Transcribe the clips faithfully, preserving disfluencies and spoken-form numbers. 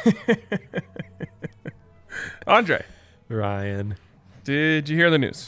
Andre, Ryan. did you hear the news?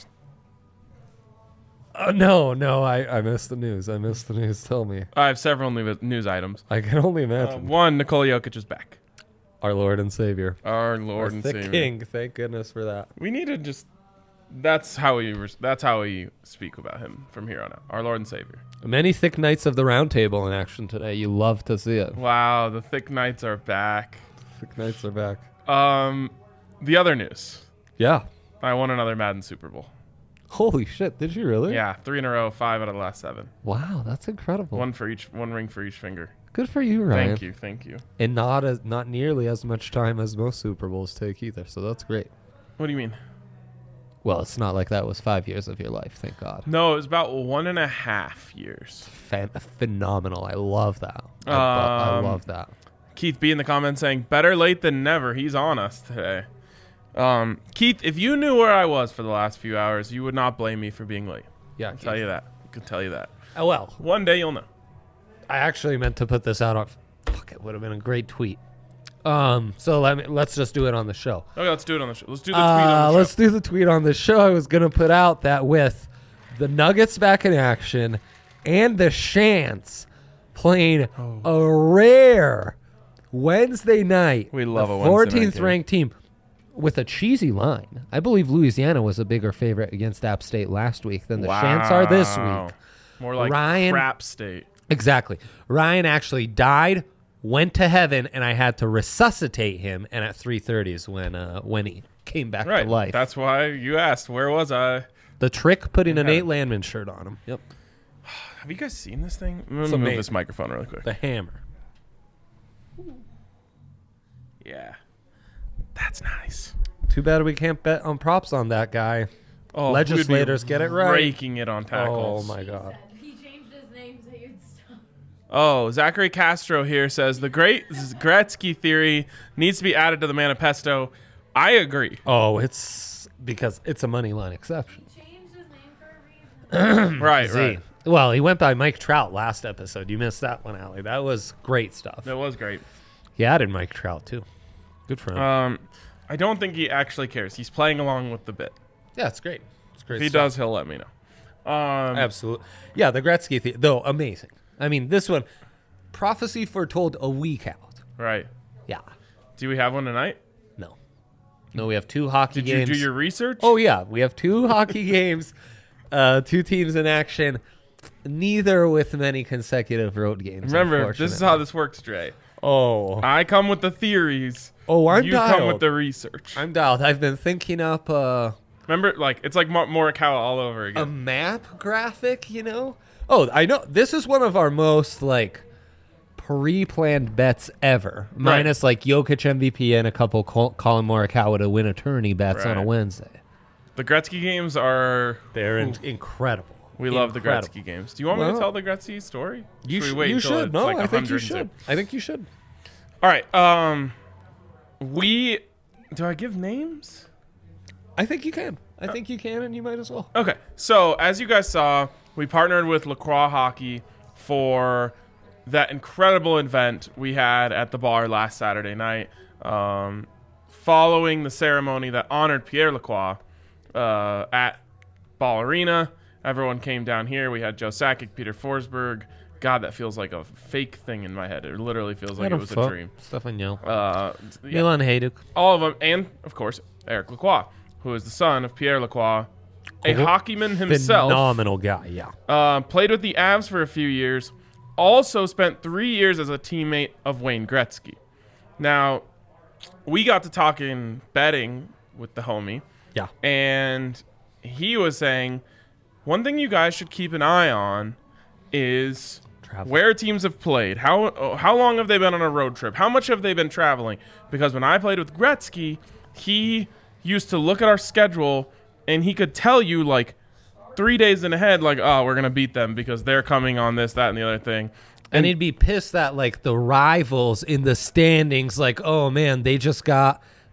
Uh, no, no, I, I missed the news. I missed the news. Tell me. I have several new news items. I can only Uh, imagine. one, Nikola Jokic is back. Our Lord and Savior. Our Lord Our and thick Savior. King. Thank goodness for that. We need to just. That's how we. Res- that's how we speak about him from here on out. Our Lord and Savior. Many thick knights of the round table in action today. You love to see it. Wow, the thick knights are back. Thick knights are back. Um, the other news. Yeah. I won another Madden Super Bowl. Holy shit! Did you really? Yeah, three in a row, five out of the last seven. Wow, that's incredible. One for each, one ring for each finger. Good for you, Ryan. Thank you, thank you. And not as not nearly as much time as most Super Bowls take either. So that's great. What do you mean? Well, it's not like that was five years of your life. Thank God. No, it was about one and a half years. Fan- phenomenal. I love that. I, bu- I Um, love that. Keith B in the comments saying, better late than never. He's on us today. Um, Keith, if you knew where I was for the last few hours, you would not blame me for being late. Yeah, I'll tell you that. I can tell you that. Oh, well, One day you'll know. I actually meant to put this out on. Fuck, it would have been a great tweet. Um, so let me let's just do it on the show. Okay, let's do it on the show. Let's do the tweet Uh, on the show. let's do the tweet on the show. I was gonna put out that with the Nuggets back in action and the Shants playing Oh. a rare Wednesday night. We love the a Wednesday night fourteenth game. ranked team with a cheesy line. I believe Louisiana was a bigger favorite against App State last week than the Shants are this Wow. week. More like Ryan- crap state. Exactly. Ryan actually died, went to heaven, and I had to resuscitate him. And at three thirty is when uh, when he came back Right. to life. That's why you asked, where was I? The trick, putting a Yeah. Nate Landman shirt on him. Yep. Have you guys seen this thing? I'm It's gonna move amazing. this microphone really quick. The hammer. Yeah. That's nice. Too bad we can't bet on props on that guy. Oh, Legislators we'd be get it right. Raking it on Oh tackles. my God. He changed his name so you'd stop. Oh, Zachary Castro here says the great Gretzky theory needs to be added to the manifesto. I agree. Oh, it's because it's a money line exception. He changed his name for a reason. Right, Z. right. Well, he went by Mike Trout last episode. You missed that one, Allie. That was great stuff. That was great. He added Mike Trout too. Good for him. Um, I don't think he actually cares. He's playing along with the bit. yeah, it's great. It's great. If he stuff. does, he'll let me know. Um, Absolutely. Yeah, the Gretzky thing, though, amazing. I mean, this one, prophecy foretold a week out. right. Yeah. Do we have one tonight? No. No, we have two hockey Did games. you do your research? Oh, yeah. We have two hockey games, uh, two teams in action, neither with many consecutive road games. Remember, this is how this works, Dre. Oh. I come with the theories. Oh, I'm you dialed. come with the research. I'm dialed. I've been thinking up uh, Remember, like it's like Mor- Morikawa all over a again. map graphic, you know? Oh, I know. This is one of our most, like, pre-planned bets ever. Minus, like, Jokic M V P and a couple Col- Colin Morikawa to win a tourney bets on a Right. Wednesday. The Gretzky games are. They're in- incredible. We love the Incredible. Gretzky games. Do you want me Well, to tell the Gretzky story? You, Should sh- we wait you until should. it's No, like I think you one hundred should. I think you should. All right. Um, we do I give names? I think you can. I think you can, and you might as well. Okay. So as you guys saw, we partnered with Lacroix Hockey for that incredible event we had at the bar last Saturday night. Um, following the ceremony that honored Pierre Lacroix uh, at Ball Arena, everyone came down here. We had Joe Sakic, Peter Forsberg. God, that feels like a fake thing in my head. It literally feels like it was a dream. Stefan Yo. Uh, yeah, Milan Hajduk. all of them, and of course Eric Lacroix, who is the son of Pierre Lacroix, a Cool. hockeyman himself. Phenomenal guy, yeah. Uh, played with the Avs for a few years. Also spent three years as a teammate of Wayne Gretzky. Now, we got to talking betting with the homie, Yeah. and he was saying one thing you guys should keep an eye on is Travel. where teams have played. How how long have they been on a road trip? How much have they been traveling? Because when I played with Gretzky, he used to look at our schedule and he could tell you like three days in ahead, like, oh, we're gonna beat them because they're coming on this, that, and the other thing. And he'd be pissed that, like, the rivals in the standings, like, oh, man, they just got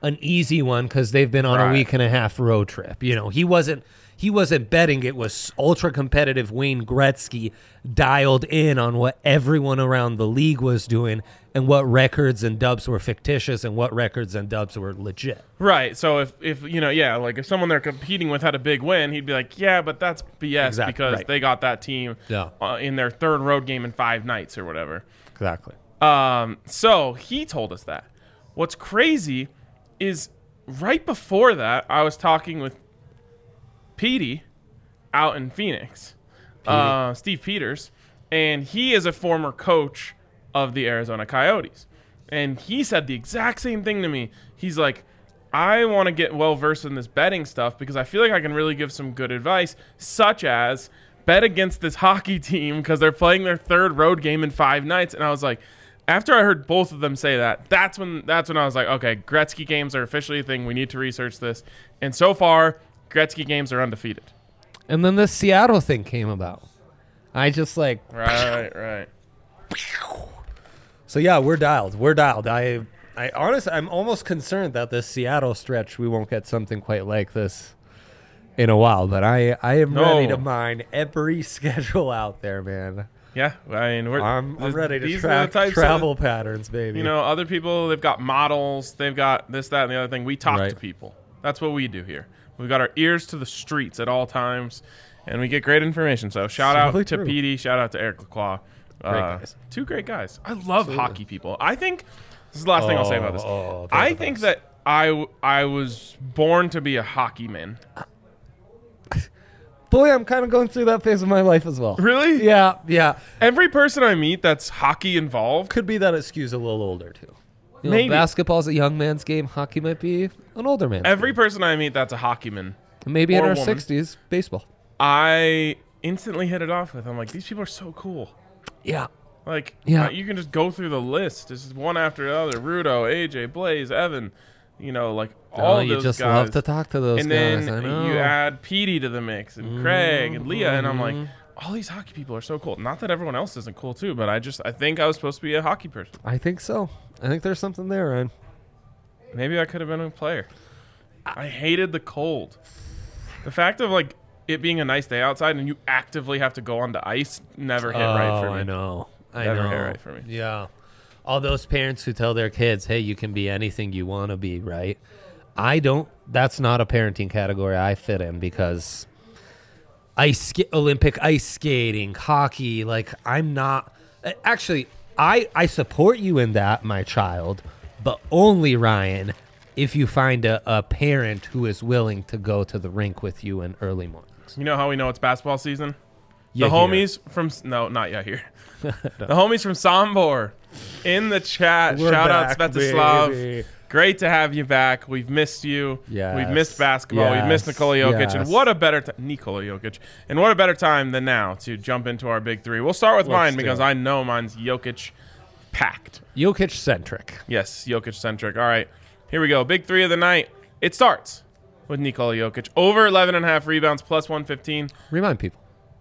an easy one because they've been on Right. a week and a half road trip. You know, he wasn't he wasn't betting. It was ultra competitive. Wayne Gretzky dialed in on what everyone around the league was doing and what records and dubs were fictitious and what records and dubs were legit. Right. So if, if you know, yeah, like if someone they're competing with had a big win, he'd be like, yeah, but that's B S Exactly, because right. they got that team Yeah. uh, in their third road game in five nights or whatever. Exactly. Um, so he told us that. What's crazy is right before that, I was talking with Petey out in Phoenix, uh, Steve Peters, and he is a former coach of the Arizona Coyotes. And he said the exact same thing to me. He's like, I want to get well versed in this betting stuff because I feel like I can really give some good advice, such as bet against this hockey team because they're playing their third road game in five nights. And I was like, after I heard both of them say that, that's when that's when I was like, okay, Gretzky games are officially a thing. We need to research this. And so far, Gretzky games are undefeated. And then the Seattle thing came about. I just like Right, right. So yeah, we're dialed. We're dialed. I I honestly I'm almost concerned that this Seattle stretch we won't get something quite like this in a while, but I I am No. ready to mine every schedule out there, man. Yeah, I mean, we're, I'm, I'm this- ready to these are track the types travel Of, patterns, baby. you know, other people, they've got models, they've got this, that, and the other thing. We talk Right. to people. That's what we do here. We've got our ears to the streets at all times, and we get great information. So shout It's out really to true. Petey, shout out to Eric Lacroix. Great Uh, guys. Two great guys. I love hockey people. I think this is the last thing I'll say about this. Oh, oh, they're I the think best. that I w- I was born to be a hockey man. Boy, I'm kind of going through that phase of my life as well. Really? Yeah, yeah. Every person I meet that's hockey involved. Could be that it skews a little older too. You know, Maybe. basketball's a young man's game. Hockey might be an older man's Every game. person I meet that's a hockey man. Maybe in or a our woman. sixties, baseball. I instantly hit it off with. I'm like, these people are so cool. Yeah. Like, Yeah. uh, you can just go through the list. This is one after the other. Rudo, A J, Blaze, Evan. You know, like all Oh, of you those just guys. love to talk to those and guys. then I know. you add Petey to the mix, and Craig and Leah, and I'm like, Mhm. all these hockey people are so cool. Not that everyone else isn't cool too, but I just I think I was supposed to be a hockey person. I think so. I think there's something there, Ryan. Maybe I could have been a player. I hated the cold. The fact of like it being a nice day outside and you actively have to go onto ice never hit right for me. Oh, I know. I Never know. hit right for me. Yeah. All those parents who tell their kids, hey, you can be anything you want to be, right? I don't. That's not a parenting category I fit in because ice sk- Olympic ice skating, hockey, like I'm not. Actually, I, I support you in that, my child, but only, Ryan, if you find a, a parent who is willing to go to the rink with you in early mornings. You know how we know it's basketball season? Yeah, the homies from no, not yet here. The homies from Sombor in the chat. We're Shout back, out Svetislav. baby. Great to have you back. We've missed you. Yes. We've missed basketball. We've missed Yes. Nikola Jokic. Yes. And what a better time, Nikola Jokic. And what a better time than now to jump into our big three. We'll start with Let's mine do because it. I know mine's Jokic packed. Jokic centric. Yes, Jokic centric. All right, here we go. Big three of the night. It starts with Nikola Jokic. Over eleven and a half rebounds, plus one fifteen. Remind people.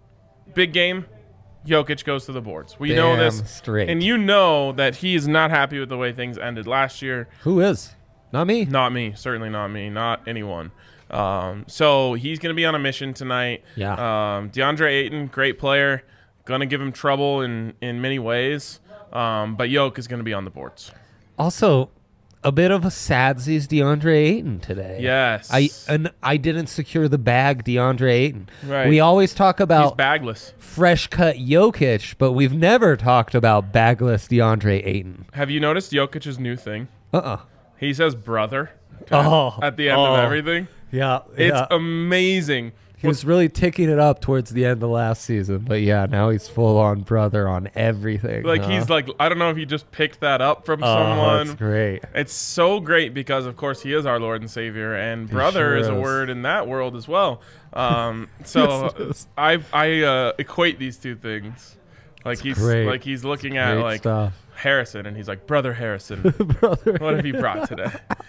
Big game. Jokic goes to the boards. We know Damn this. straight. And you know that he is not happy with the way things ended last year. Who is? Not me. Not me. Certainly not me. Not anyone. Um, so he's going to be on a mission tonight. Yeah. Um, DeAndre Ayton, great player. Going to give him trouble in, in many ways. Um, but Jokic is going to be on the boards. Also, a bit of a sadsies DeAndre Ayton today. Yes. I and I didn't secure the bag DeAndre Ayton. Right. We always talk He's about bagless. fresh cut Jokic, but we've never talked about bagless DeAndre Ayton. Have you noticed Jokic's new thing? Uh-uh. He says brother Oh. at the end oh. of everything. Yeah. It's yeah. amazing. He was really ticking it up towards the end of last season, but yeah, now he's full on brother on everything. Like huh? he's like, I don't know if he just picked that up from oh, someone. that's great. It's so great because, of course, he is our Lord and Savior, and brother sure is a is. word in that world as well. Um, so Yes, it is. I I uh, equate these two things. Like he's great. like he's looking at Great like stuff. Harrison, and he's like, brother Harrison, brother. what have you brought today?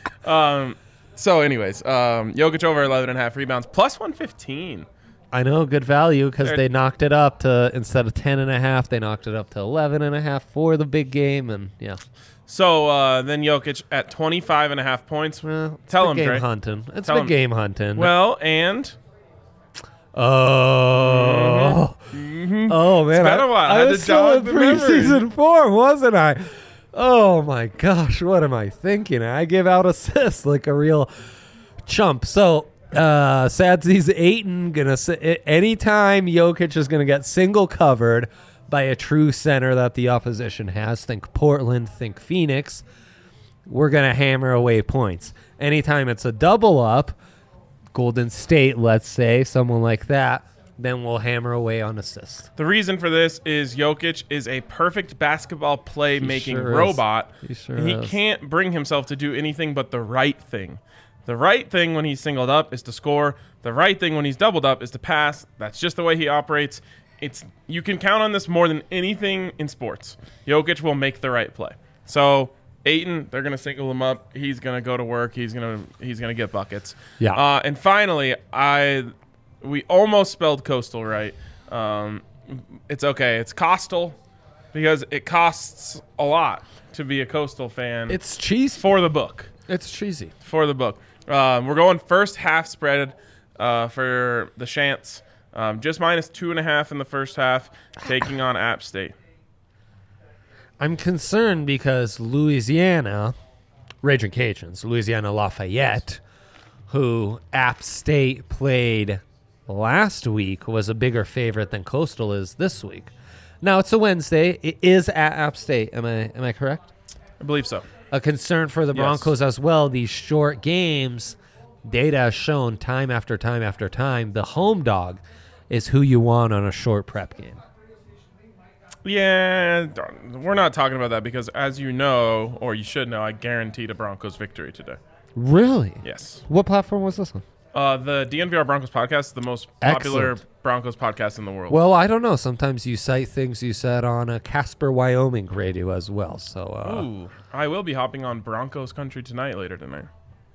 um, so, anyways, um, Jokic over eleven and a half rebounds, plus one fifteen. I know, good value because They're- they knocked it up to, instead of ten and a half, they knocked it up to eleven and a half for the big game. And yeah, So uh, then Jokic at twenty-five and a half points. Well, it's Tell been him, game Dre. hunting. It's Tell been him. game hunting. Well, and oh, mhm. oh man, been a while. I I, had was to still jog in the memory. preseason form, wasn't I? Oh my gosh, what am I thinking? I give out assists like a real chump. So, uh, Sadsi's Ayton gonna s- anytime Jokic is gonna get single covered by a true center that the opposition has. Think Portland, think Phoenix. We're gonna hammer away points. Anytime it's a double up, Golden State, let's say, someone like that, then we'll hammer away on assists. The reason for this is Jokic is a perfect basketball play-making sure is. robot. He sure he is. can't bring himself to do anything but the right thing. The right thing when he's singled up is to score. The right thing when he's doubled up is to pass. That's just the way he operates. It's you can count on this more than anything in sports. Jokic will make the right play. So Ayton, they're gonna single him up. He's gonna go to work. He's gonna he's gonna get buckets. Yeah. Uh, and finally, I we almost spelled coastal right. Um, it's okay. It's Coastal because it costs a lot to be a Coastal fan. It's cheesy. for the book. It's cheesy. For the book. Um, we're going first half spread uh, for the Chants. Um, just minus two and a half in the first half, taking on App State. I'm concerned because Louisiana, Raging Cajuns, Louisiana Lafayette, who App State played last week, was a bigger favorite than Coastal is this week. Now it's a Wednesday. It is at App State. Am I am I correct? I believe so. A concern for the Yes. Broncos as well. These short games, data has shown time after time after time, the home dog is who you want on a short prep game. Yeah, darn, we're not talking about that because, as you know, or you should know, I guaranteed a Broncos victory today. Really? Yes. What platform was this on? Uh, the D N V R Broncos podcast is the most popular Excellent. Broncos podcast in the world. Well, I don't know. Sometimes you cite things you said on a Casper, Wyoming radio as well. So, uh, Ooh, I will be hopping on Broncos country tonight later tonight.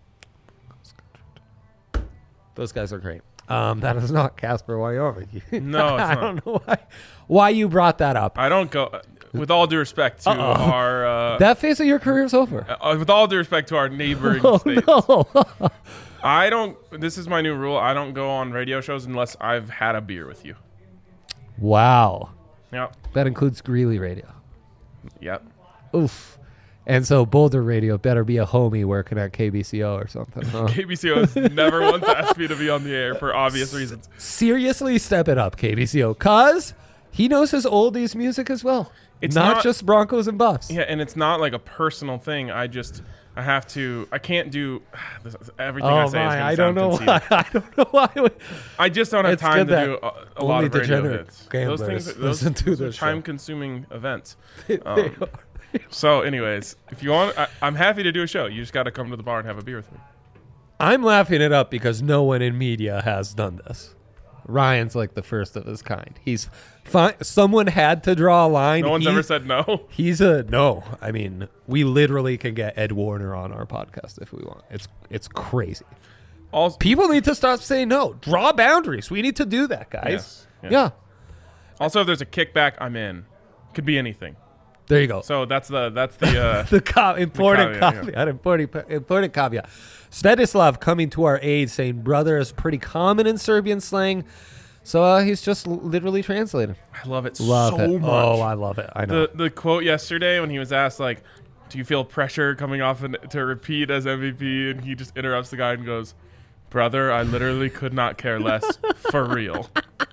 those guys are great. Um, that is not Casper, Wyoming. No, it's I not. don't know why, why you brought that up. I don't go. With all due respect to Uh-oh. our, uh, that phase of your career is over. uh, with all due respect to our neighboring Oh, states, no. I don't. This is my new rule. I don't go on radio shows unless I've had a beer with you. Wow. Yep. That includes Greeley radio. Yep. Oof. And so Boulder radio better be a homie working at K B C O or something. Huh? K B C O has never once asked me to be on the air for obvious reasons. Seriously, step it up, K B C O, because he knows his oldies music as well. It's not, not- just Broncos and Buffs. Yeah, and it's not like a personal thing. I just, I have to, I can't do this, everything Oh I say. is my! gonna I sound don't know conceited. why. I don't know why. we- I just don't have It's time good to do that a, a lot only of radio degenerate hits. Those gamblers things, those, listen to those are this show. time-consuming events. They Um, are. So, anyways, if you want, I, I'm happy to do a show. You just got to come to the bar and have a beer with me. I'm laughing it up because no one in media has done this. Ryan's like the first of his kind. He's fine. Someone had to draw a line. No one's He- ever said no. He's a no. I mean, we literally can get Ed Warner on our podcast if we want. It's it's crazy. Also, People need to stop saying no. Draw boundaries. We need to do that, guys. Yes, yes. Yeah. also, if there's a kickback, I'm in. Could be anything. There you go. So that's the that's the. Uh, the co- important caveat, yeah. caveat, important, important caveat. Svetislav coming to our aid saying brother is pretty common in Serbian slang. So uh, he's just l- literally translating. I love it Love so it. much. Oh, I love it. I know. the the quote yesterday when he was asked like, "Do you feel pressure coming off an, to repeat as M V P?" and he just interrupts the guy and goes, "Brother, I literally could not care less for real."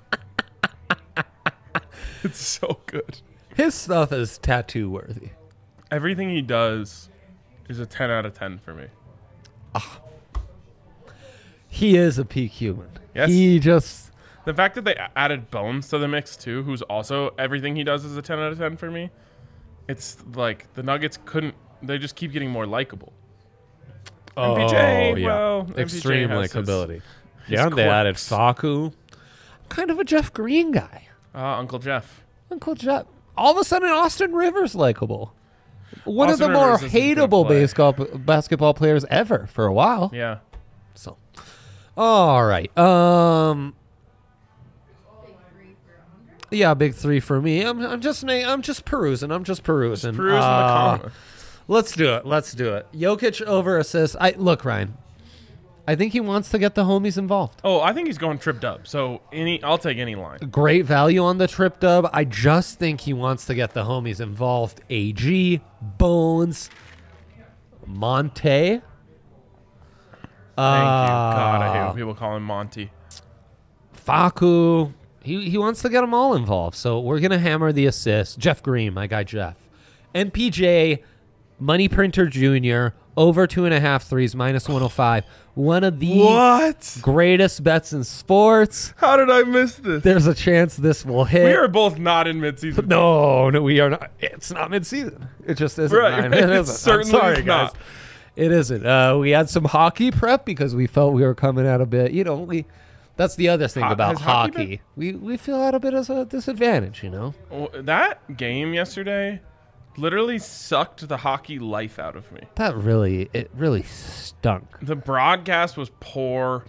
It's so good. His stuff is tattoo worthy. Everything he does is a ten out of ten for me. He is a peak human. Yes. He just The fact that they a- added Bones to the mix too, who's also everything he does is a ten out of ten for me. It's like the Nuggets couldn't. They just keep getting more likable. M P J, oh, yeah. well, M P J extreme has his- likability. his Yeah, they added quirks. Faku. Kind of a Jeff Green guy. Uh, Uncle Jeff. Uncle Jeff. All of a sudden, Austin Rivers likable. One Austin of the more Rivers isn't gonna hateable play. basketball basketball players ever for a while. Yeah. So, all right. Um, Big three for Andre. yeah, big three for me. I'm, I'm just, na- I'm just perusing. I'm just perusing. Peruse in the Uh, comment. Let's do it. Let's do it. Jokic over assists. I look, Ryan. I think he wants to get the homies involved. Oh, I think he's going tripped up. So any, I'll take any line. Great value on the trip dub. I just think he wants to get the homies involved. A G, Bones, Monte. Thank Uh, you. God, I hate when people call him Monty. Facu. He he wants to get them all involved. So we're gonna hammer the assists. Jeff Green, my guy Jeff. M P J, Money Printer Junior, over two and a half threes, minus one oh five. One of the What? greatest bets in sports. How did I miss this? There's a chance this will hit. We are both not in midseason. No, no, we are not. It's not midseason. It just isn't. Right, Ryan. right. It It's isn't. certainly I'm sorry, not. guys. It isn't. Uh, we had some hockey prep because we felt we were coming out a bit. You know, we. That's the other thing Ho- about has hockey hockey. We we feel out a bit as a disadvantage. You know. Well, that game yesterday literally sucked the hockey life out of me. That really, it really stunk. The broadcast was poor.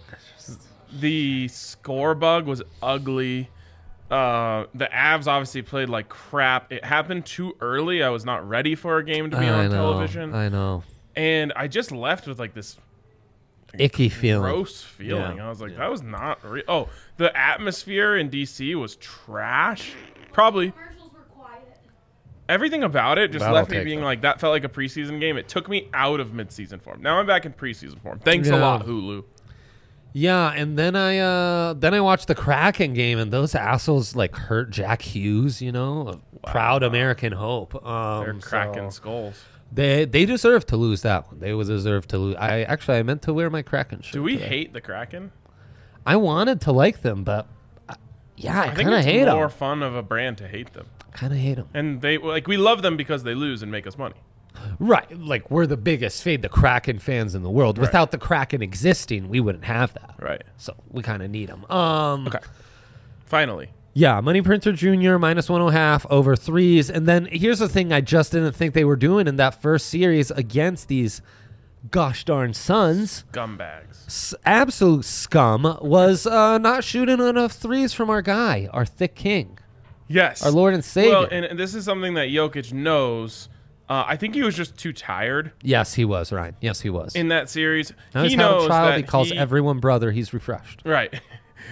The score bug was ugly. Uh, the Avs obviously played like crap. It happened too early. I was not ready for a game to be I on know, television. I know. And I just left with like this Icky feeling. gross feeling. Yeah. I was like, that was not real. Oh, the atmosphere in D C was trash. Probably. Commercials were quiet. Everything about it just That'll left me take being that. like, that felt like a preseason game. It took me out of midseason form. Now I'm back in preseason form. Thanks a Yeah. lot, Hulu. Yeah, and then I uh then I watched the Kraken game, and those assholes like hurt Jack Hughes. You know, a proud American hope. Um, They're cracking so skulls. They they deserve to lose that one. They would deserve to lose. I actually I meant to wear my Kraken shirt. Do we today. hate the Kraken? I wanted to like them, but uh, yeah, I, I think kind of it's hate more them. fun of a brand to hate them. Kind of hate them. And they like we love them because they lose and make us money. Right, like we're the biggest fade the Kraken fans in the world. Right. Without the Kraken existing, we wouldn't have that. Right. So we kind of need them. Um, Okay. Finally. Yeah, Money Printer Junior minus one and a half over threes. And then here's the thing I just didn't think they were doing in that first series against these gosh darn Suns. Gumbags. S- absolute scum was uh, not shooting enough threes from our guy, our thick king, Yes. our Lord and Savior. Well, and, and this is something that Jokic knows. Uh, I think he was just too tired yes, he was, Ryan. Yes, he was. in that series. now he he's had knows a child. that He calls he, everyone brother. He's refreshed. Right.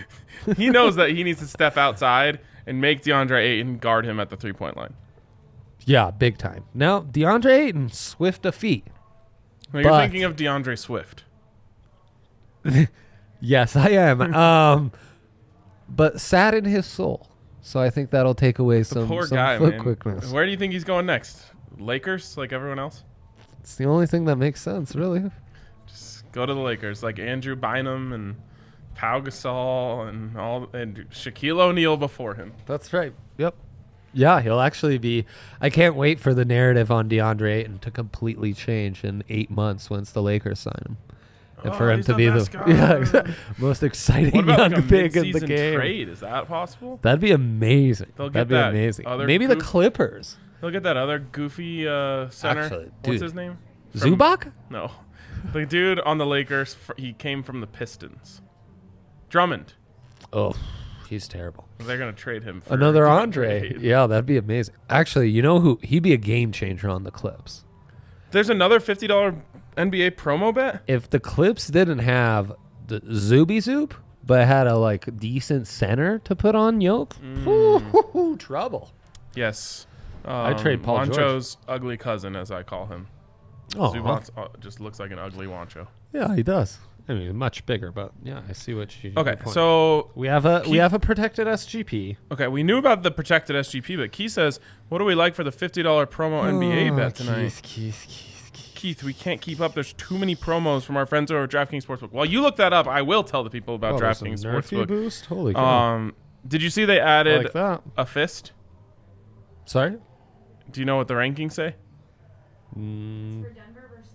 He knows that he needs to step outside and make DeAndre Ayton guard him at the three-point line. Yeah, big time. Now, DeAndre Ayton, swift of feet. Now, you're But- thinking of DeAndre Swift. Yes, I am. um, but sad in his soul. So I think that'll take away The some, poor some guy, foot man. quickness. Where do you think he's going next? Lakers, like everyone else? It's the only thing that makes sense, really. Just go to the Lakers, like Andrew Bynum and Pau Gasol and all, and Shaquille O'Neal before him. That's right. Yep. Yeah, he'll actually be. I can't wait for the narrative on DeAndre Ayton to completely change in eight months once the Lakers sign him. And Oh, for him he's to the be best the guy. yeah, exactly, most exciting What about young like a pig in the mid-season game. trade? Is that possible? That'd be amazing. They'll That'd get be that amazing. other Maybe the goof- Clippers. Look at that other goofy uh, center. Actually, What's dude. his name? From- Zubac? No. The dude on the Lakers, fr- he came from the Pistons. Drummond. Oh, he's terrible. They're going to trade him for Another DeAndre Andre. Ayton. Yeah, that'd be amazing. Actually, you know who? He'd be a game changer on the Clips. There's another fifty dollars N B A promo bet? If the Clips didn't have the Zuby Zoop, but had a like decent center to put on Yoke, Mm. ooh, trouble. Yes. Um, I'd trade Paul George. Wancho's ugly cousin, as I call him. Oh, Zubac's uh, just looks like an ugly Wancho. yeah, he does. I mean, much bigger, but yeah, I see what you. Okay, your point. so we have a we Keith- have a protected S G P. okay, we knew about the protected S G P, but Keith says, "What do we like for the fifty dollars promo N B A bet tonight?" Keith, Keith, Keith, Keith. Keith, we can't keep up. There's too many promos from our friends over at DraftKings Sportsbook. While you look that up, I will tell the people about Oh, there's some DraftKings Nerfy Sportsbook. boost. Holy cow! Um, did you see they I added like that. a fist? Sorry. Do you know what the rankings say? Mm. For Denver versus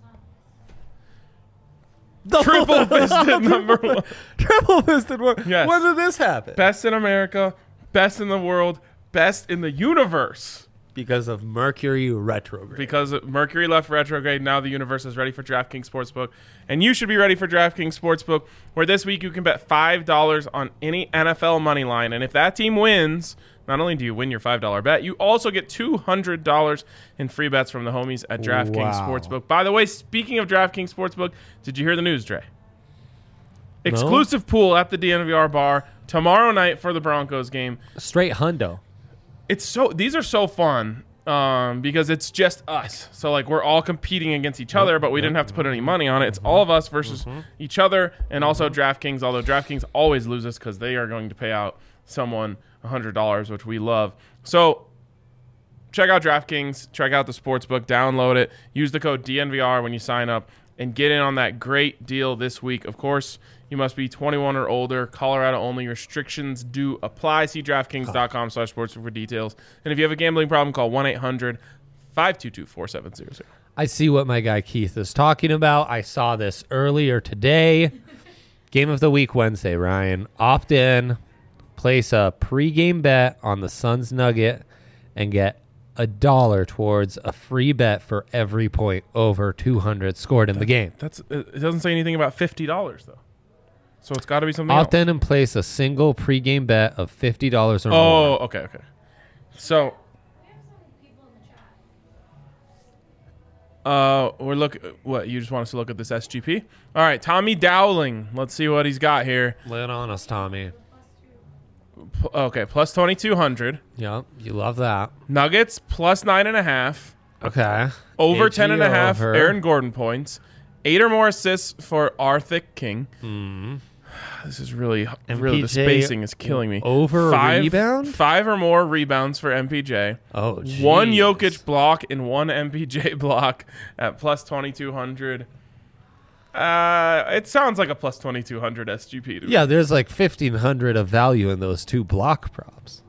Suns. Triple fisted number one. Triple fisted one. Yes. When did this happen? Best in America, best in the world, best in the universe. Because of Mercury retrograde. Because Mercury left retrograde, now the universe is ready for DraftKings Sportsbook. And you should be ready for DraftKings Sportsbook, where this week you can bet five dollars on any N F L money line. And if that team wins, not only do you win your five dollar bet, you also get two hundred dollars in free bets from the homies at DraftKings Wow. Sportsbook. By the way, speaking of DraftKings Sportsbook, did you hear the news, Dre? Exclusive pool at the D N V R bar tomorrow night for the Broncos game. Straight hundo. It's so these are so fun um, because it's just us. So like we're all competing against each other, but we didn't have to put any money on it. It's all of us versus each other, and also DraftKings. Although DraftKings always loses because they are going to pay out someone one hundred dollars, which we love. So check out DraftKings, check out the sportsbook, download it, use the code D N V R when you sign up, and get in on that great deal this week. Of course, you must be twenty-one or older. Colorado only. Restrictions do apply. See DraftKings.com slash sports for details. And if you have a gambling problem, call one eight hundred five two two four seven zero zero. I see what my guy Keith is talking about. I saw this earlier today. Game of the week Wednesday, Ryan. Opt in, place a pregame bet on the Suns Nugget, and get a dollar towards a free bet for every point over two hundred scored in the game. That's it doesn't say anything about fifty dollars, though. So it's got to be something Opt else. in and place a single pregame bet of fifty dollars or more. Oh, okay, okay. So We have some people in the chat. uh, we're look. What, you just want us to look at this S G P? All right, Tommy Dowling. Let's see what he's got here. Lay it on us, Tommy. P- okay, plus twenty-two hundred. Yep, you love that. Nuggets plus nine and a half. Okay. Over A G ten and a half. over. Aaron Gordon points. Eight or more assists for Arthur King. Mm. This is really, really the M P J spacing is killing me. over a five, rebound? Five or more rebounds for M P J. Oh, One jeez. Jokic block and one M P J block at plus twenty-two hundred. Uh, it sounds like a plus twenty-two hundred S G P to me. Yeah, there's like fifteen hundred of value in those two block props.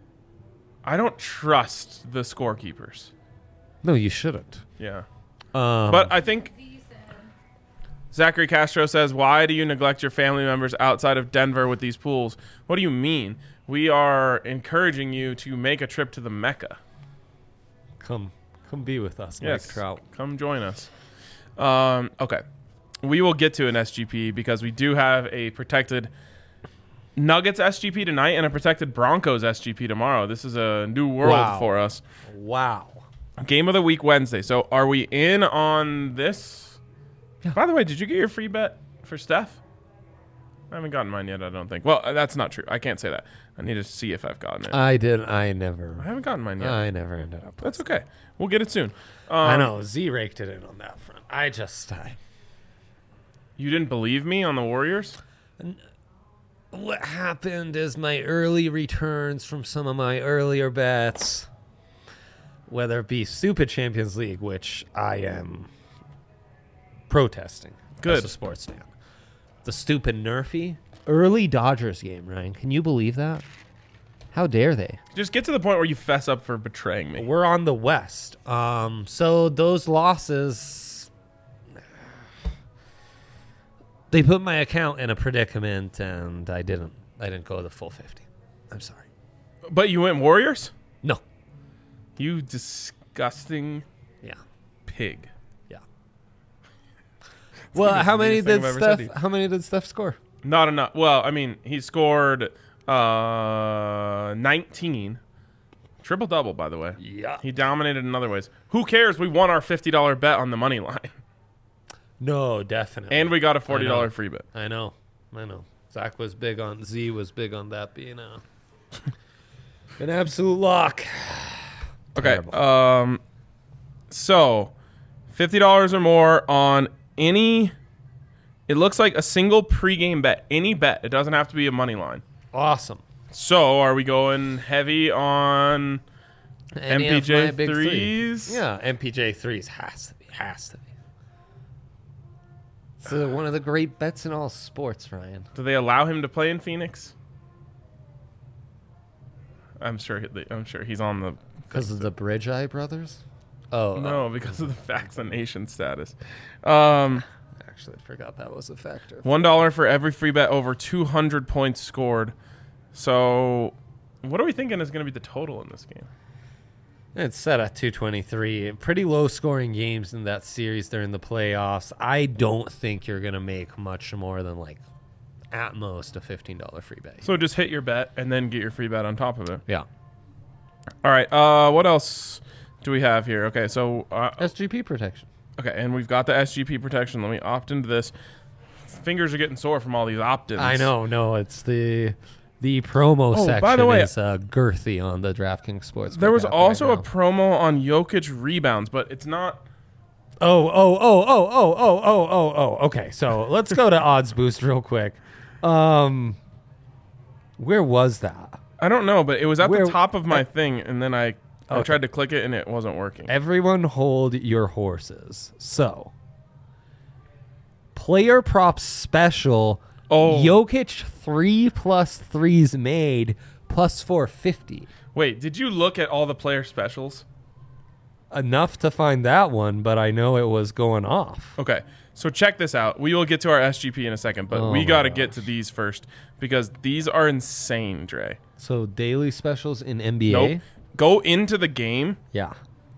I don't trust the scorekeepers. No, you shouldn't. Yeah. Um, But I think Z said, Zachary Castro says, why do you neglect your family members outside of Denver with these pools? What do you mean? We are encouraging you to make a trip to the Mecca. come, come be with us, Yes. Mike Trout. Come join us. Um, okay. We will get to an S G P because we do have a protected Nuggets S G P tonight and a protected Broncos S G P tomorrow. This is a new world Wow. for us. Wow. Game of the week Wednesday. So are we in on this? Yeah. By the way, did you get your free bet for Steph? I haven't gotten mine yet, I don't think. Well, uh, that's not true. I can't say that. I need to see if I've gotten it. I did. I I never. haven't gotten mine yet. I never ended up. That's okay. We'll get it soon. Um, I know Z raked it in on that front. I just. I, You didn't believe me on the Warriors? what happened is my early returns from some of my earlier bets, whether it be Stupid Champions League, which I am protesting Good. as a sports fan. The stupid Nerfy early Dodgers game, Ryan. Can you believe that? How dare they? Just get to the point where you fess up for betraying me. We're on the West. Um, so those losses, they put my account in a predicament, and I didn't. I didn't go the full fifty. I'm sorry. But you went Warriors? No. You disgusting Yeah. pig. Yeah. Well, the how many meanest thing did I've ever said to Steph? you. How many did Steph score? Not enough. Well, I mean, he scored uh, nineteen. Triple double, by the way. Yeah. He dominated in other ways. Who cares? We won our fifty dollar bet on the money line. No, definitely. And we got a forty dollar I know. free bet. I know. I know. Zach was big on Z was big on that being a an absolute lock. Okay. Terrible. Um, so fifty dollars or more on any. It looks like a single pregame bet. Any bet. It doesn't have to be a money line. Awesome. So are we going heavy on Any M P of J my big three. threes? Yeah, M P J threes has to be. Has to be. It's uh, one of the great bets in all sports, Ryan. Do they allow him to play in Phoenix? I'm sure. he- I'm sure he's on the. Because of the Bridge Eye brothers? Oh, No, because of the vaccination status. Um, actually, I forgot that was a factor. One dollar for every free bet over two hundred points scored. So, what are we thinking is going to be the total in this game? It's set at two twenty-three. Pretty low scoring games in that series during the playoffs. I don't think you're going to make much more than like at most a fifteen dollars free bet. So just hit your bet and then get your free bet on top of it. Yeah. All right. Uh, what else do we have here? Okay, so uh, S G P protection. okay, and we've got the S G P protection. Let me opt into this. Fingers are getting sore from all these opt-ins. I know. No, it's the the promo Oh, section by the way- is uh, girthy on the DraftKings Sportsbook. There was app also right a now. promo on Jokic rebounds, but it's not. Oh, oh, oh, oh, oh, oh, oh, oh, oh. Okay, so let's go to Odds Boost real quick. Um, where was that? I don't know, but it was at Where- the top of my thing, and then I, I Okay. tried to click it, and it wasn't working. Everyone hold your horses. So, player props special. Oh. Jokic three plus threes made plus four fifty. Wait, did you look at all the player specials? Enough to find that one, but I know it was going off. Okay, so check this out. We will get to our S G P in a second, but Oh we my got to gosh. get to these first because these are insane, Dre. So daily specials in N B A. Nope. Go into the game Yeah.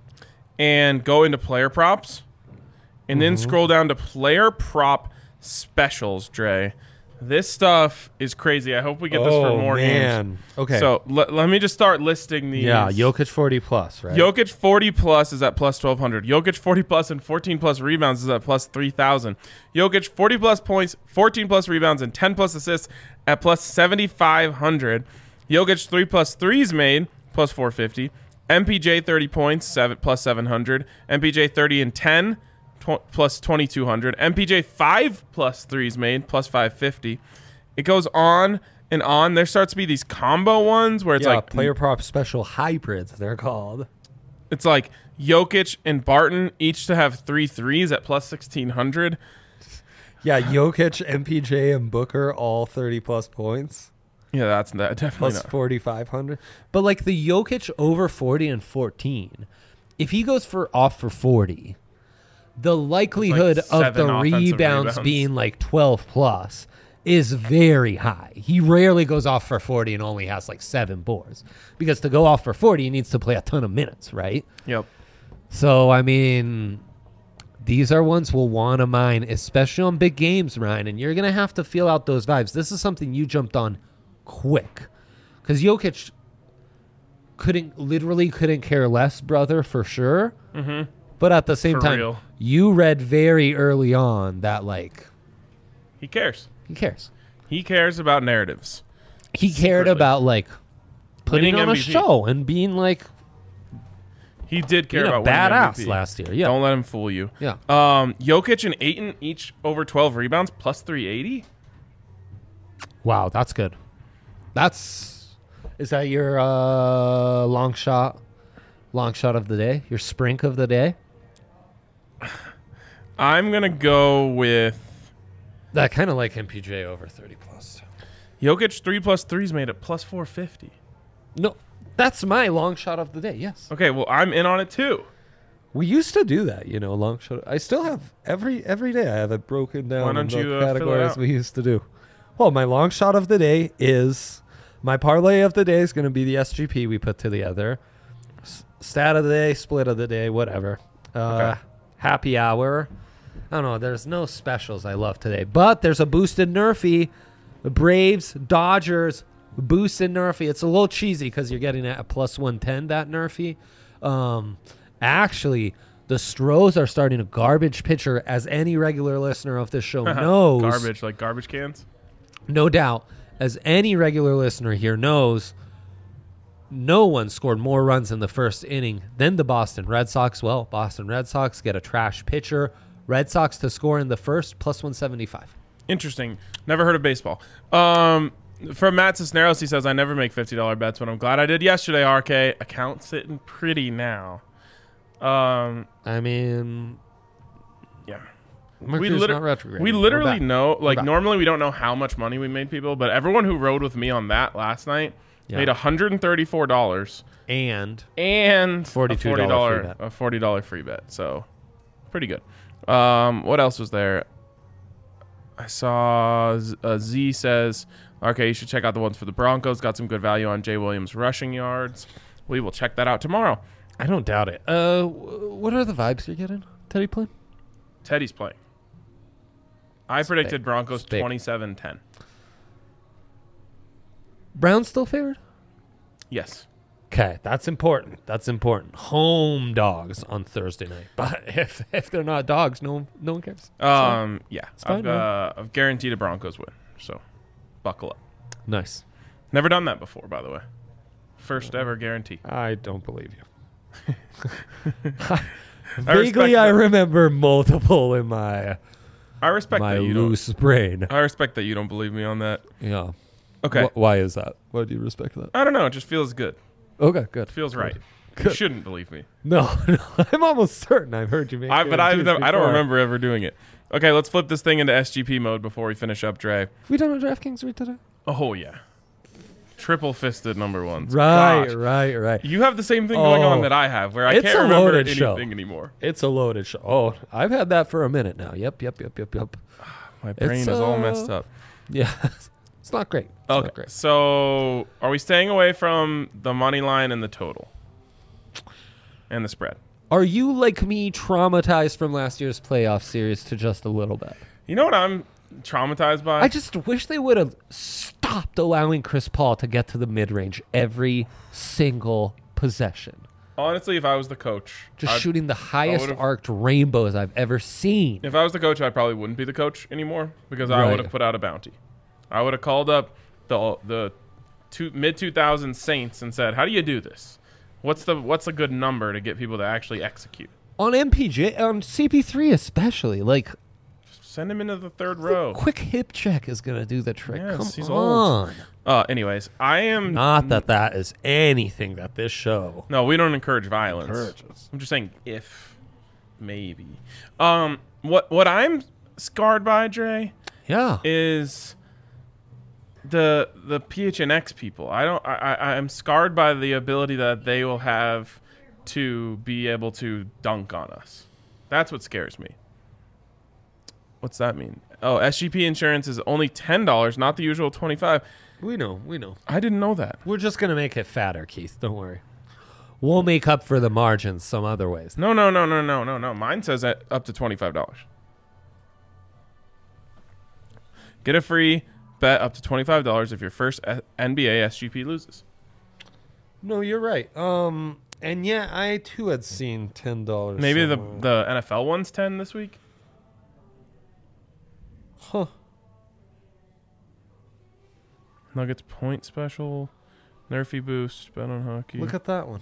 and go into player props, and then scroll down to player prop specials, Dre. This stuff is crazy. I hope we get this for more games. Okay. So let, let me just start listing these. yeah, Jokic forty plus, right? Jokic forty plus is at plus twelve hundred. Jokic forty plus and fourteen plus rebounds is at plus three thousand. Jokic forty plus points, fourteen plus rebounds, and ten plus assists at plus seventy-five hundred. Jokic three plus threes made plus four fifty. M P J thirty points seven plus seven hundred. M P J thirty and ten tw- plus twenty-two hundred. M P J five plus threes made plus five fifty. It goes on and on. There starts to be these combo ones where it's yeah, like player prop special hybrids, they're called. it's like Jokic and Barton each to have three threes at plus sixteen hundred. Yeah, Jokic, M P J, and Booker all thirty plus points. Yeah, that's that definitely Plus not. forty-five hundred. But like the Jokic over forty and fourteen, if he goes for off for forty, the likelihood of seven the offensive rebounds, rebounds. being like twelve plus is very high. He rarely goes off for forty and only has like seven boards. Because to go off for forty, he needs to play a ton of minutes, right? Yep. So, I mean, these are ones we'll want to mine, especially on big games, Ryan. And you're going to have to feel out those vibes. This is something you jumped on quick. Because Jokic couldn't, literally couldn't care less, brother, for sure. Mm-hmm. But at the same For time, real. you read very early on that, like, He cares. he cares. He cares about narratives. He cared Secretly. about, like, putting Winning on a M V P. show and being, like, He did care being a about winning badass M V P. last year. Yeah. Don't let him fool you. Yeah. Um, Jokic and Ayton each over twelve rebounds plus three eighty. Wow, that's good. That's is that your uh, long shot, long shot of the day? Your sprink of the day? I'm gonna go with That kind of like M P J over thirty plus. Jokic three plus threes made it plus four fifty. No, that's my long shot of the day. Yes, Okay, well I'm in on it too. we used to do that. You know, long shot. I still have every every day. I have it broken down. Why don't in the you, uh, fill it categories out? we used to do? Well, my long shot of the day is my parlay of the day is going to be the S G P we put together. S- stat of the day, split of the day, whatever. Uh, Okay. Happy hour. I don't know. There's no specials I love today, but there's a boosted Nerfy. The Braves, Dodgers, boosted Nerfy. It's a little cheesy because you're getting it at plus one ten, that Nerfy. Um, actually, the Stros are starting a garbage pitcher, as any regular listener of this show knows. Garbage, like garbage cans. No doubt, as any regular listener here knows, no one scored more runs in the first inning than the Boston Red Sox. Well, Boston Red Sox get a trash pitcher. Red Sox to score in the first, plus one seventy-five. Interesting. Never heard of baseball. Um, from Matt Cisneros, he says, I never make fifty dollars bets, but I'm glad I did yesterday, R K. Account sitting pretty now. Um, I mean, yeah. Mercury's liter- not retrograde. We We're literally back. know, like, back. normally we don't know how much money we made people, but everyone who rode with me on that last night Yeah. made one hundred thirty-four dollars And and forty-two a dollars forty free dollars bet. a forty dollars free bet. So, pretty good. Um, what else was there? I saw Z, uh, Z says, okay, you should check out the ones for the Broncos. Got some good value on Jay Williams rushing yards. We will check that out tomorrow. I don't doubt it. Uh, w- what are the vibes you're getting? Teddy playing? Teddy's playing. I It's predicted big. Broncos It's big. twenty-seven ten. Brown's still favored? Yes. Okay, that's important. That's important. Home dogs on Thursday night. But if if they're not dogs, no no one cares. Um. Yeah. fine, I've, man. uh, I've guaranteed a Broncos win. So, buckle up. Nice. Never done that before, by the way. First ever guarantee. I don't believe you. I Vaguely, respect I that. remember multiple in my I respect my that you don't. loose brain. I respect that you don't believe me on that. Yeah. Okay. Wh- why is that? Why do you respect that? I don't know. It just feels good. Okay, good. It feels right. You Good. shouldn't believe me. No, no, I'm almost certain I've heard you make. I, but I, guarantees I don't before. remember ever doing it. Okay, let's flip this thing into S G P mode before we finish up, Dre. We done a DraftKings read today? Oh yeah, triple fisted number ones. Right, Gosh. right, right. You have the same thing going on Oh. that I have, where I It's can't a remember loaded anything show. anymore. It's a loaded show. Oh, I've had that for a minute now. Yep, yep, yep, yep, yep. My brain It's, is all uh, messed up. Yeah, it's not great. It's not Okay, great. so are we staying away from the money line and the total and the spread? Are you like me, traumatized from last year's playoff series to just a little bit? You know what I'm traumatized by? I just wish they would have stopped allowing Chris Paul to get to the mid range every single possession. Honestly, if I was the coach, Just I'd- shooting the highest would've- arced rainbows I've ever seen. If I was the coach, I probably wouldn't be the coach anymore because I Right. would have put out a bounty. I would have called up the the two, mid two thousands Saints and said, "How do you do this? What's the what's a good number to get people to actually execute? On M P J, on C P three especially, like Send him into the third row." quick hip check is going to do the trick. Yes, Come he's on. old. Uh, anyways, I am Not that that is anything that this show No, we don't encourage violence. encourages. I'm just saying if, maybe. Um, what what I'm scarred by, Dre, Yeah. is the the P H N X people. I don't. I, I I'm scarred by the ability that they will have to be able to dunk on us. That's what scares me. What's that mean? Oh, S G P insurance is only ten dollars, not the usual twenty five. We know. We know. I didn't know that. We're just going to make it fatter, Keith. Don't worry. We'll make up for the margins some other ways. No, no, no, no, no, no, no. Mine says that up to twenty-five dollars. Get a free bet up to twenty-five dollars if your first uh, N B A S G P loses. No, you're right. Um, and yeah, I too had seen ten dollars. Maybe the the N F L one's ten this week. Huh. Nuggets point special, Nerfy boost, bet on hockey. Look at that one.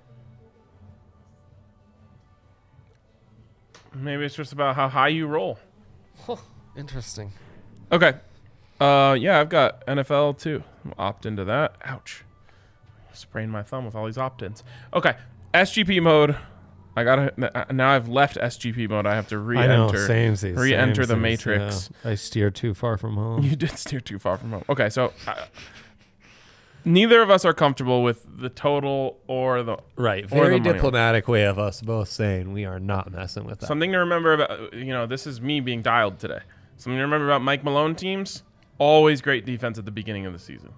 Maybe it's just about how high you roll. Huh. Interesting. Okay. Uh, yeah, I've got N F L too. I'll opt into that. Ouch. Sprained my thumb with all these opt-ins. Okay. S G P mode. I gotta now. I've left S G P mode. I have to re-enter. Samesies, re-enter the samesies, Matrix. yeah. I steered too far from home. You did steer too far from home. Okay, so uh, neither of us are comfortable with the total or the Right. or Very the money line. diplomatic way of us both saying we are not messing with that. Something to remember about, you know, this is me being dialed today. Something to remember about Mike Malone teams, always great defense at the beginning of the season.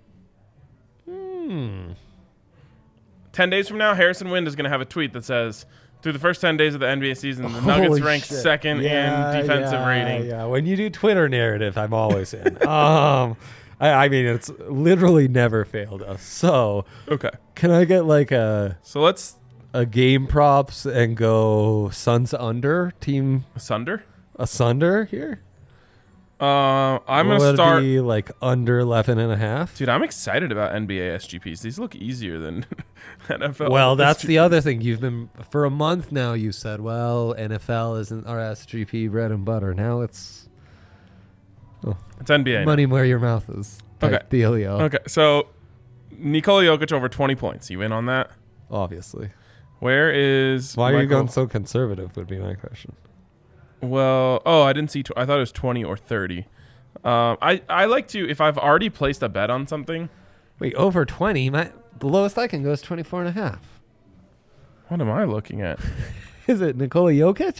Hmm. ten days from now, Harrison Wind is going to have a tweet that says, through the first ten days of the N B A season, the Nuggets Holy ranked shit. second Yeah, in defensive yeah, rating. Yeah, when you do Twitter narrative, I'm always in. um, I, I mean, it's literally never failed us. So, Okay. can I get like a So let's, a game props and go Suns under team Sunder? asunder here? Uh, I'm going Will to it start. be like under eleven and a half? Dude, I'm excited about N B A S G Ps. These look easier than N F L. Well, that's S G Ps. the other thing. You've been for a month now. You said, "Well, N F L isn't our S G P bread and butter." Now it's It's N B A. now. money where your mouth is. Type Okay. dealio. Okay, so Nikola Jokic over twenty points. You in on that? Obviously. Where is Why are you Michael- going so conservative? Would be my question. Well, oh, I didn't see. Tw- I thought it was twenty or thirty. Um, I I like to if I've already placed a bet on something. Wait, over twenty? My the lowest I can go is twenty-four and a half. What am I looking at? Is it Nikola Jokic?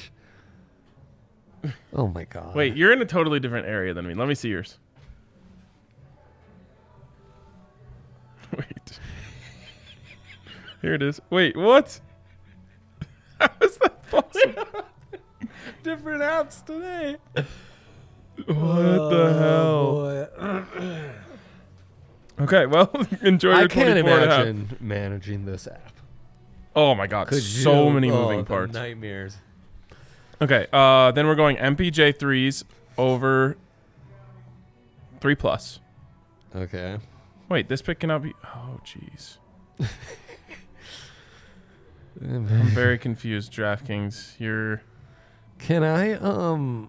Oh my god. Wait, you're in a totally different area than me. Let me see yours. Wait. Here it is. Wait, what? How is that possible? Different apps today. What the hell? Boy. Okay, well, enjoy your I can't twenty-four and a half. imagine managing this app. Oh my god, Could so you? many Oh, moving the parts. Nightmares. Okay, uh, then we're going M P J threes over three plus. Okay. Wait, this pick cannot be. Oh, jeez. I'm very confused, DraftKings. You're. Can I um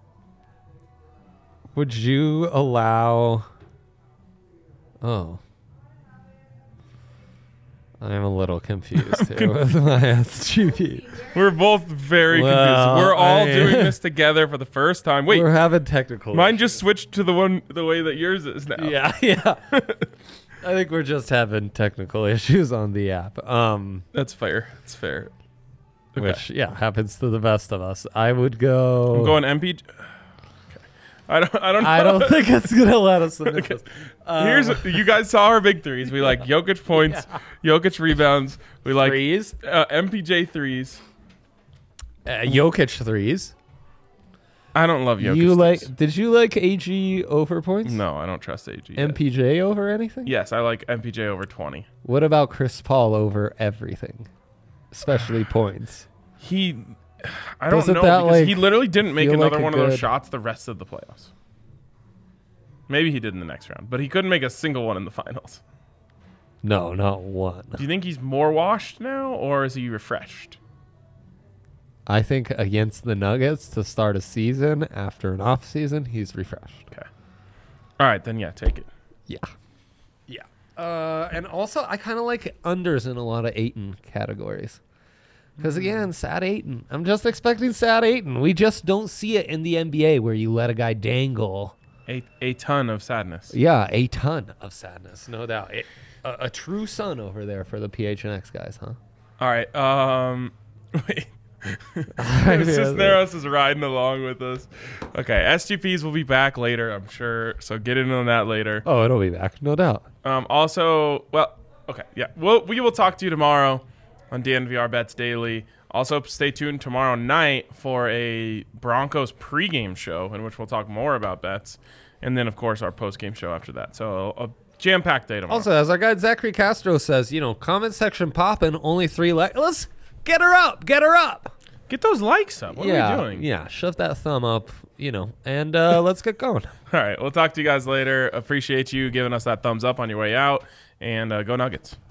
would you allow Oh. I'm a little confused here with my S G P. We're both very Well, confused. We're all I- doing this together for the first time. Wait, We're having technical mine issues. just switched to the one the way that yours is now. Yeah, yeah. I think we're just having technical issues on the app. Um That's fair. That's fair. Okay. which yeah, happens to the best of us. I would go I'm going M P J. Okay. I don't. I don't. Know. I don't think it's gonna let us submit this. Um, Here's you guys saw our big threes. We like Jokic points, Jokic rebounds. We like threes. uh, M P J threes. Uh, Jokic threes. I don't love Jokic. You threes. like? Did you like A G over points? No, I don't trust A G. yet. M P J over anything? Yes, I like M P J over twenty. What about Chris Paul over everything, especially points? He, I don't Doesn't know that, because like, he literally didn't make feel another like a one of those good- shots the rest of the playoffs. Maybe he did in the next round, but he couldn't make a single one in the finals. No, not one. Do you think he's more washed now, or is he refreshed? I think against the Nuggets to start a season after an off season, he's refreshed. Okay. All right, then yeah, take it. Yeah. Yeah. Uh, and also, I kind of like unders in a lot of Aiton categories. Because again, Sad Aiton. I'm just expecting Sad Aiton. We just don't see it in the N B A where you let a guy dangle. A a ton of sadness. Yeah, a ton of sadness, no doubt. It, a, a true son over there for the P H N X guys, huh? All right. Um. Wait. I Cisneros is riding along with us. Okay, S G Ps will be back later, I'm sure. So get in on that later. Oh, it'll be back, no doubt. Um. Also, well, okay, yeah. We'll we will talk to you tomorrow on D N V R Bets Daily. Also, stay tuned tomorrow night for a Broncos pregame show in which we'll talk more about bets, and then of course our postgame show after that. So a jam-packed day tomorrow. Also, as our guy Zachary Castro says, you know, comment section popping, only three likes. Let's get her up, get her up. Get those likes up. What yeah, are we doing? Yeah, shove that thumb up, you know, and uh, let's get going. All right, we'll talk to you guys later. Appreciate you giving us that thumbs up on your way out, and uh, go Nuggets.